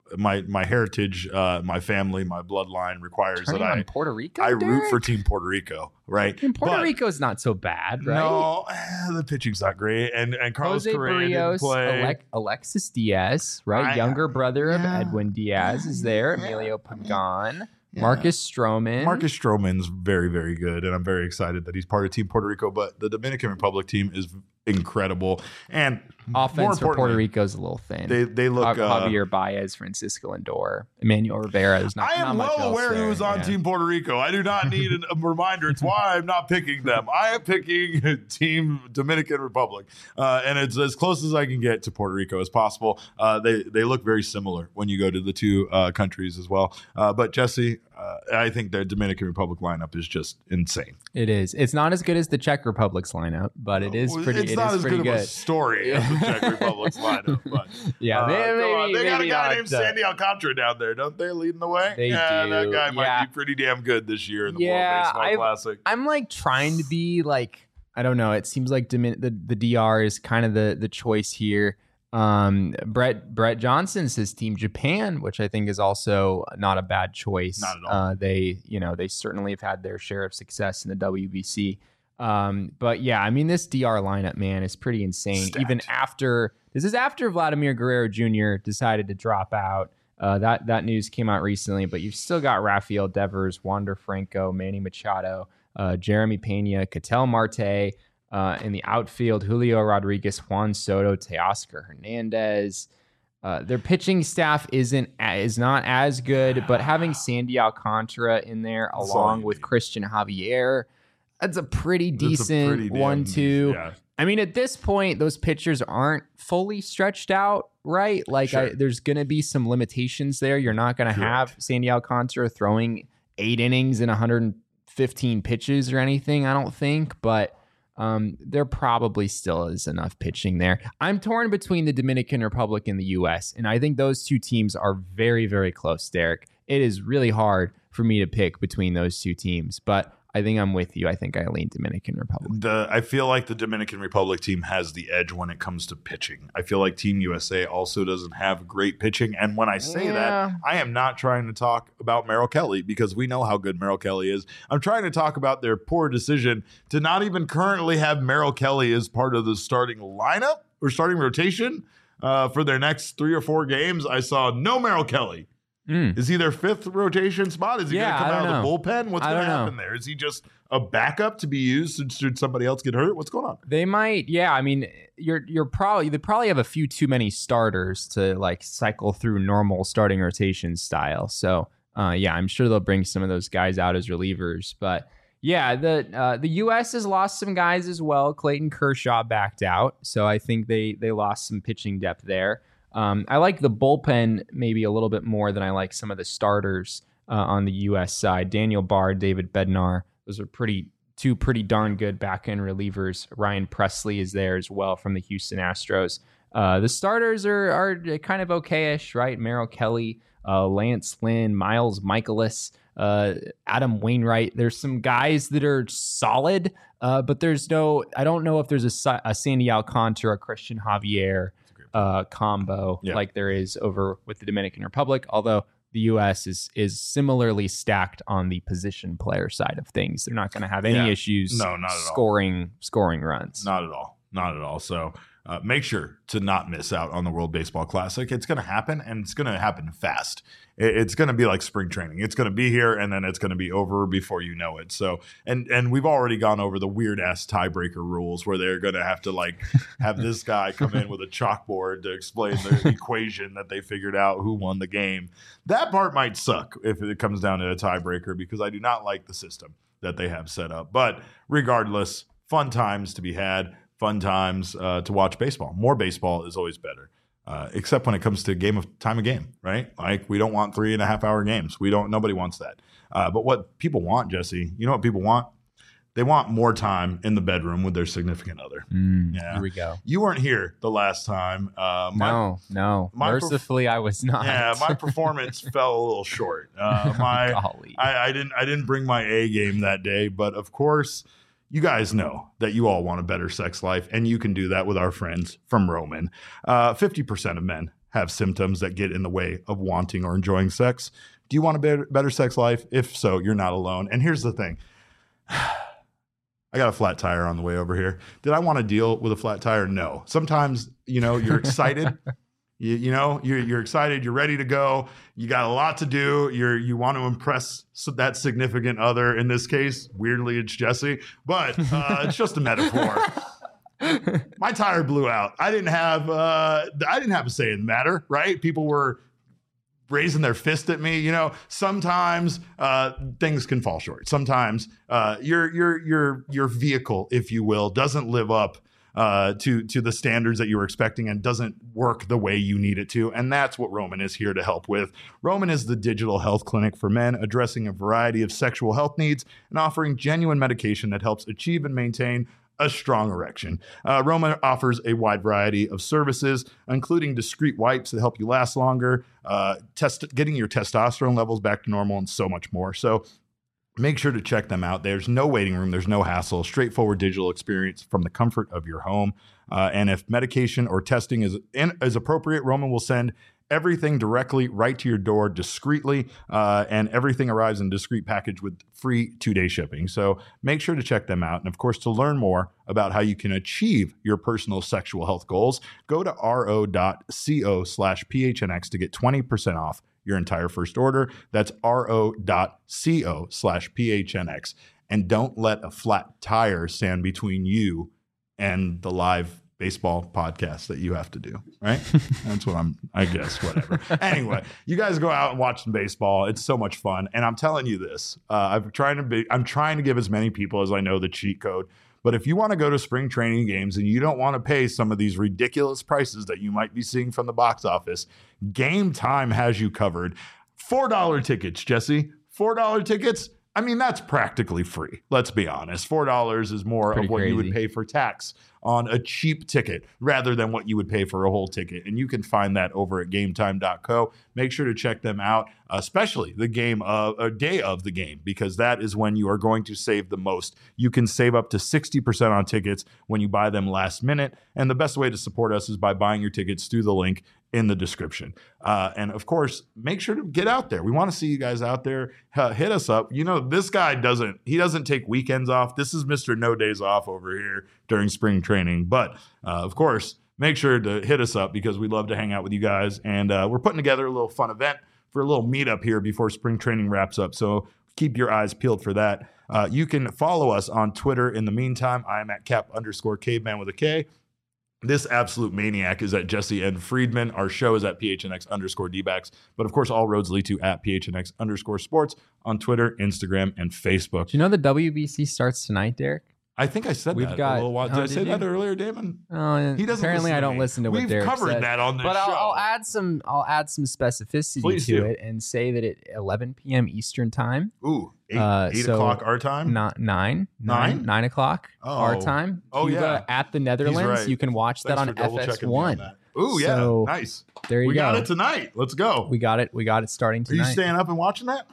my my heritage, uh, my family, my bloodline requires Turning that on I Puerto Rico. I root Derek? for Team Puerto Rico, right? And Puerto But- Rico's not so bad, right? No, eh, the pitching's not great, and and Carlos Jose Correa didn't Barrios, play. Alec- Alexis Diaz, right? I- Younger brother yeah. of Edwin Diaz is there. Yeah. Emilio Pagan, Yeah. Marcus Stroman. Marcus Stroman's very, very good, and I'm very excited that he's part of Team Puerto Rico. But the Dominican Republic team is incredible, and more Offense for Puerto importantly, Rico's a little thin. They they look. Ja- Uh, Javier Baez, Francisco Lindor, Emmanuel Rivera. There's not. I am not much well else aware there, who was on yeah. Team Puerto Rico. I do not need an- a reminder. It's why I'm not picking them. I am picking Team Dominican Republic, uh, and it's as close as I can get to Puerto Rico as possible. Uh, they they look very similar when you go to the two uh, countries as well. Uh, but Jesse, uh, I think their Dominican Republic lineup is just insane. It is. It's not as good as the Czech Republic's lineup, but it is pretty. It's it not is as pretty good, good. of a story as the Czech Republic's lineup. But Yeah, uh, they, come maybe, on. they got a maybe guy not, named uh, Sandy Alcantara down there, don't they? Leading the way. They yeah, do. that guy might Yeah. be pretty damn good this year in the Yeah, World Baseball I've- Classic. I'm like trying to be like I don't know. It seems like Domin- the the D R is kind of the the choice here. Um, Brett Brett Johnson says Team Japan, which I think is also not a bad choice. Not at all. Uh, they you know they certainly have had their share of success in the W B C. Um, but yeah, I mean this D R lineup, man, is pretty insane. Stacked. Even after this is after Vladimir Guerrero Junior decided to drop out. Uh, that that news came out recently, but you've still got Rafael Devers, Wander Franco, Manny Machado, uh, Jeremy Pena, Ketel Marte. Uh, in the outfield, Julio Rodriguez, Juan Soto, Teoscar Hernandez. Uh, their pitching staff isn't is not as good, but having Sandy Alcantara in there That's all along you with need. Christian Javier, that's a pretty That's a decent pretty damn one decent- two. yeah. I mean, at this point, those pitchers aren't fully stretched out, right? Like, Sure. I, there's going to be some limitations there. You're not going to Correct. have Sandy Alcantara throwing eight innings and one hundred fifteen pitches or anything, I don't think, but um, there probably still is enough pitching there. I'm torn between the Dominican Republic and the U S, and I think those two teams are very, very close, Derek. It is really hard for me to pick between those two teams, but I think I'm with you. I think I lean Dominican Republic. The I feel like the Dominican Republic team has the edge when it comes to pitching. I feel like Team U S A also doesn't have great pitching. And when I say Yeah. that, I am not trying to talk about Merrill Kelly because we know how good Merrill Kelly is. I'm trying to talk about their poor decision to not even currently have Merrill Kelly as part of the starting lineup or starting rotation uh, for their next three or four games. I saw no Merrill Kelly. Mm. Is he their fifth rotation spot? Is he Yeah, going to come I out don't of the know. bullpen? What's I going to don't know. happen there? Is he just a backup to be used should- should somebody else get hurt? What's going on? They might, yeah. I mean, you're you're probably they probably have a few too many starters to like cycle through normal starting rotation style. So, uh, yeah, I'm sure they'll bring some of those guys out as relievers. But yeah, the uh, the U S has lost some guys as well. Clayton Kershaw backed out, so I think they they lost some pitching depth there. Um, I like the bullpen maybe a little bit more than I like some of the starters uh, on the U S side. Daniel Bard, David Bednar, those are pretty two pretty darn good back end relievers. Ryan Presley is there as well from the Houston Astros. Uh, the starters are are kind of okayish, right? Merrill Kelly, uh, Lance Lynn, Miles Michaelis, uh, Adam Wainwright. There's some guys that are solid, uh, but there's no. I don't know if there's a, Sa- a Sandy Alcantara, Christian Javier uh, combo Yeah. like there is over with the Dominican Republic. Although the U S is is similarly stacked on the position player side of things. They're not going to have any Yeah. issues No, not at all. scoring scoring runs. Not at all. Not at all. So uh, make sure to not miss out on the World Baseball Classic. It's going to happen, and it's going to happen fast. It- It's going to be like spring training. It's going to be here, and then it's going to be over before you know it. So, and and we've already gone over the weird ass tiebreaker rules where they're going to have to like have this guy come in with a chalkboard to explain the equation that they figured out who won the game. That part might suck if it comes down to a tiebreaker because I do not like the system that they have set up. But regardless, fun times to be had. Fun times uh, to watch baseball. More baseball is always better, uh, except when it comes to game of time of game, right? Like we don't want three and a half hour games. We don't. Nobody wants that. Uh, but what people want, Jesse, you know what people want? They want more time in the bedroom with their significant other. Mm, Yeah. Here we go. You weren't here the last time. Uh, my, no, no. my perf- Mercifully, I was not. Yeah, my performance fell a little short. Uh, my Golly. I, I didn't I didn't bring my A game that day, but of course, you guys know that you all want a better sex life, and you can do that with our friends from Roman. Uh, fifty percent of men have symptoms that get in the way of wanting or enjoying sex. Do you want a better, better sex life? If so, you're not alone. And here's the thing. I got a flat tire on the way over here. Did I want to deal with a flat tire? No. Sometimes, you know, you're excited. you, you know, you're, you're excited. You're ready to go. You got a lot to do. You're you want to impress that significant other. In this case, weirdly, it's Jesse. But uh, it's just a metaphor. My tire blew out. I didn't have. Uh, I didn't have a say in the matter. Right? People were raising their fist at me. You know, sometimes uh, things can fall short. Sometimes uh, your your your your vehicle, if you will, doesn't live up uh, to to the standards that you were expecting and doesn't work the way you need it to. And that's what Roman is here to help with. Roman is the digital health clinic for men, addressing a variety of sexual health needs and offering genuine medication that helps achieve and maintain a strong erection. Uh, Roman offers a wide variety of services, including discreet wipes that help you last longer, uh, test getting your testosterone levels back to normal, and so much more. So make sure to check them out. There's no waiting room. There's no hassle. Straightforward digital experience from the comfort of your home. Uh, and if medication or testing is, in, is appropriate, Roman will send everything directly right to your door discreetly, uh, and everything arrives in a discreet package with free two-day shipping. So make sure to check them out. And of course, to learn more about how you can achieve your personal sexual health goals, go to ro.co slash phnx to get twenty percent off your entire first order. That's ro.co slash phnx. And don't let a flat tire stand between you and the live baseball podcast that you have to do, right? That's what I'm, I guess, whatever. Anyway, you guys go out and watch some baseball. It's so much fun. And I'm telling you this, uh, I'm trying to be, I'm trying to give as many people as I know the cheat code. But if you want to go to spring training games and you don't want to pay some of these ridiculous prices that you might be seeing from the box office, Game Time has you covered. four dollar tickets, Jesse. four dollar tickets. I mean, that's practically free. Let's be honest. four dollars is more Pretty of what crazy. you would pay for tax on a cheap ticket rather than what you would pay for a whole ticket. And you can find that over at game time dot co. Make sure to check them out, especially the game of a day of the game, because that is when you are going to save the most. You can save up to sixty percent on tickets when you buy them last minute. And the best way to support us is by buying your tickets through the link in the description. Uh, and of course, make sure to get out there. We want to see you guys out there. Uh, hit us up. You know, this guy doesn't, he doesn't take weekends off. This is Mister No Days Off over here during spring training. But uh, of course, make sure to hit us up because we'd love to hang out with you guys. And uh, we're putting together a little fun event for a little meetup here before spring training wraps up. So keep your eyes peeled for that. Uh, you can follow us on Twitter in the meantime. I am at cap underscore caveman with a K. This absolute maniac is at Jesse N. Friedman. Our show is at P H N X underscore D-backs. But of course, all roads lead to at P H N X underscore sports on Twitter, Instagram, and Facebook. Do you know the W B C starts tonight, Derek? I think I said We've that got- a little while. Did oh, I did say you? that earlier, Damon? Oh, He doesn't apparently listen I to don't me. listen to what We've Derek covered said. that on this But I'll, show. I'll add some. I'll add some specificity Please to do. it and say that at eleven p.m. Eastern time, Ooh, eight, Uh, eight so o'clock our time? not nine, Nine? nine, nine o'clock our Oh. time. Oh, Cuba yeah. at the Netherlands. right. You can watch Thanks that for on double F S checking me on one. that. Ooh, yeah. So, Nice. There you We go. got it tonight. Let's go. We got it. We got it starting Are you tonight. staying up and watching that?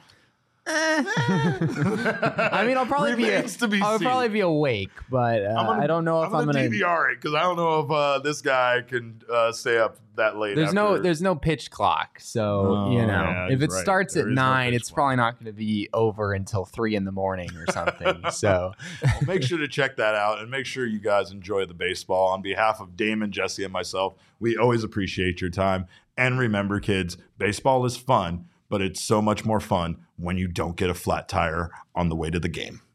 I mean, I'll probably be. Remains to be I'll seen. probably be awake, but uh, I'm gonna- I don't know if I'm I'm gonna, gonna. D V R it because I don't know if uh, this guy can uh, stay up that late. There's no after- there's no pitch clock, so Oh, you know yeah, if he's it right. starts There at is no nine, pitch it's clock. probably not going to be over until three in the morning or something. so Well, make sure to check that out and make sure you guys enjoy the baseball. On behalf of Damon, Jesse, and myself, we always appreciate your time. And remember, kids, baseball is fun, but it's so much more fun when you don't get a flat tire on the way to the game.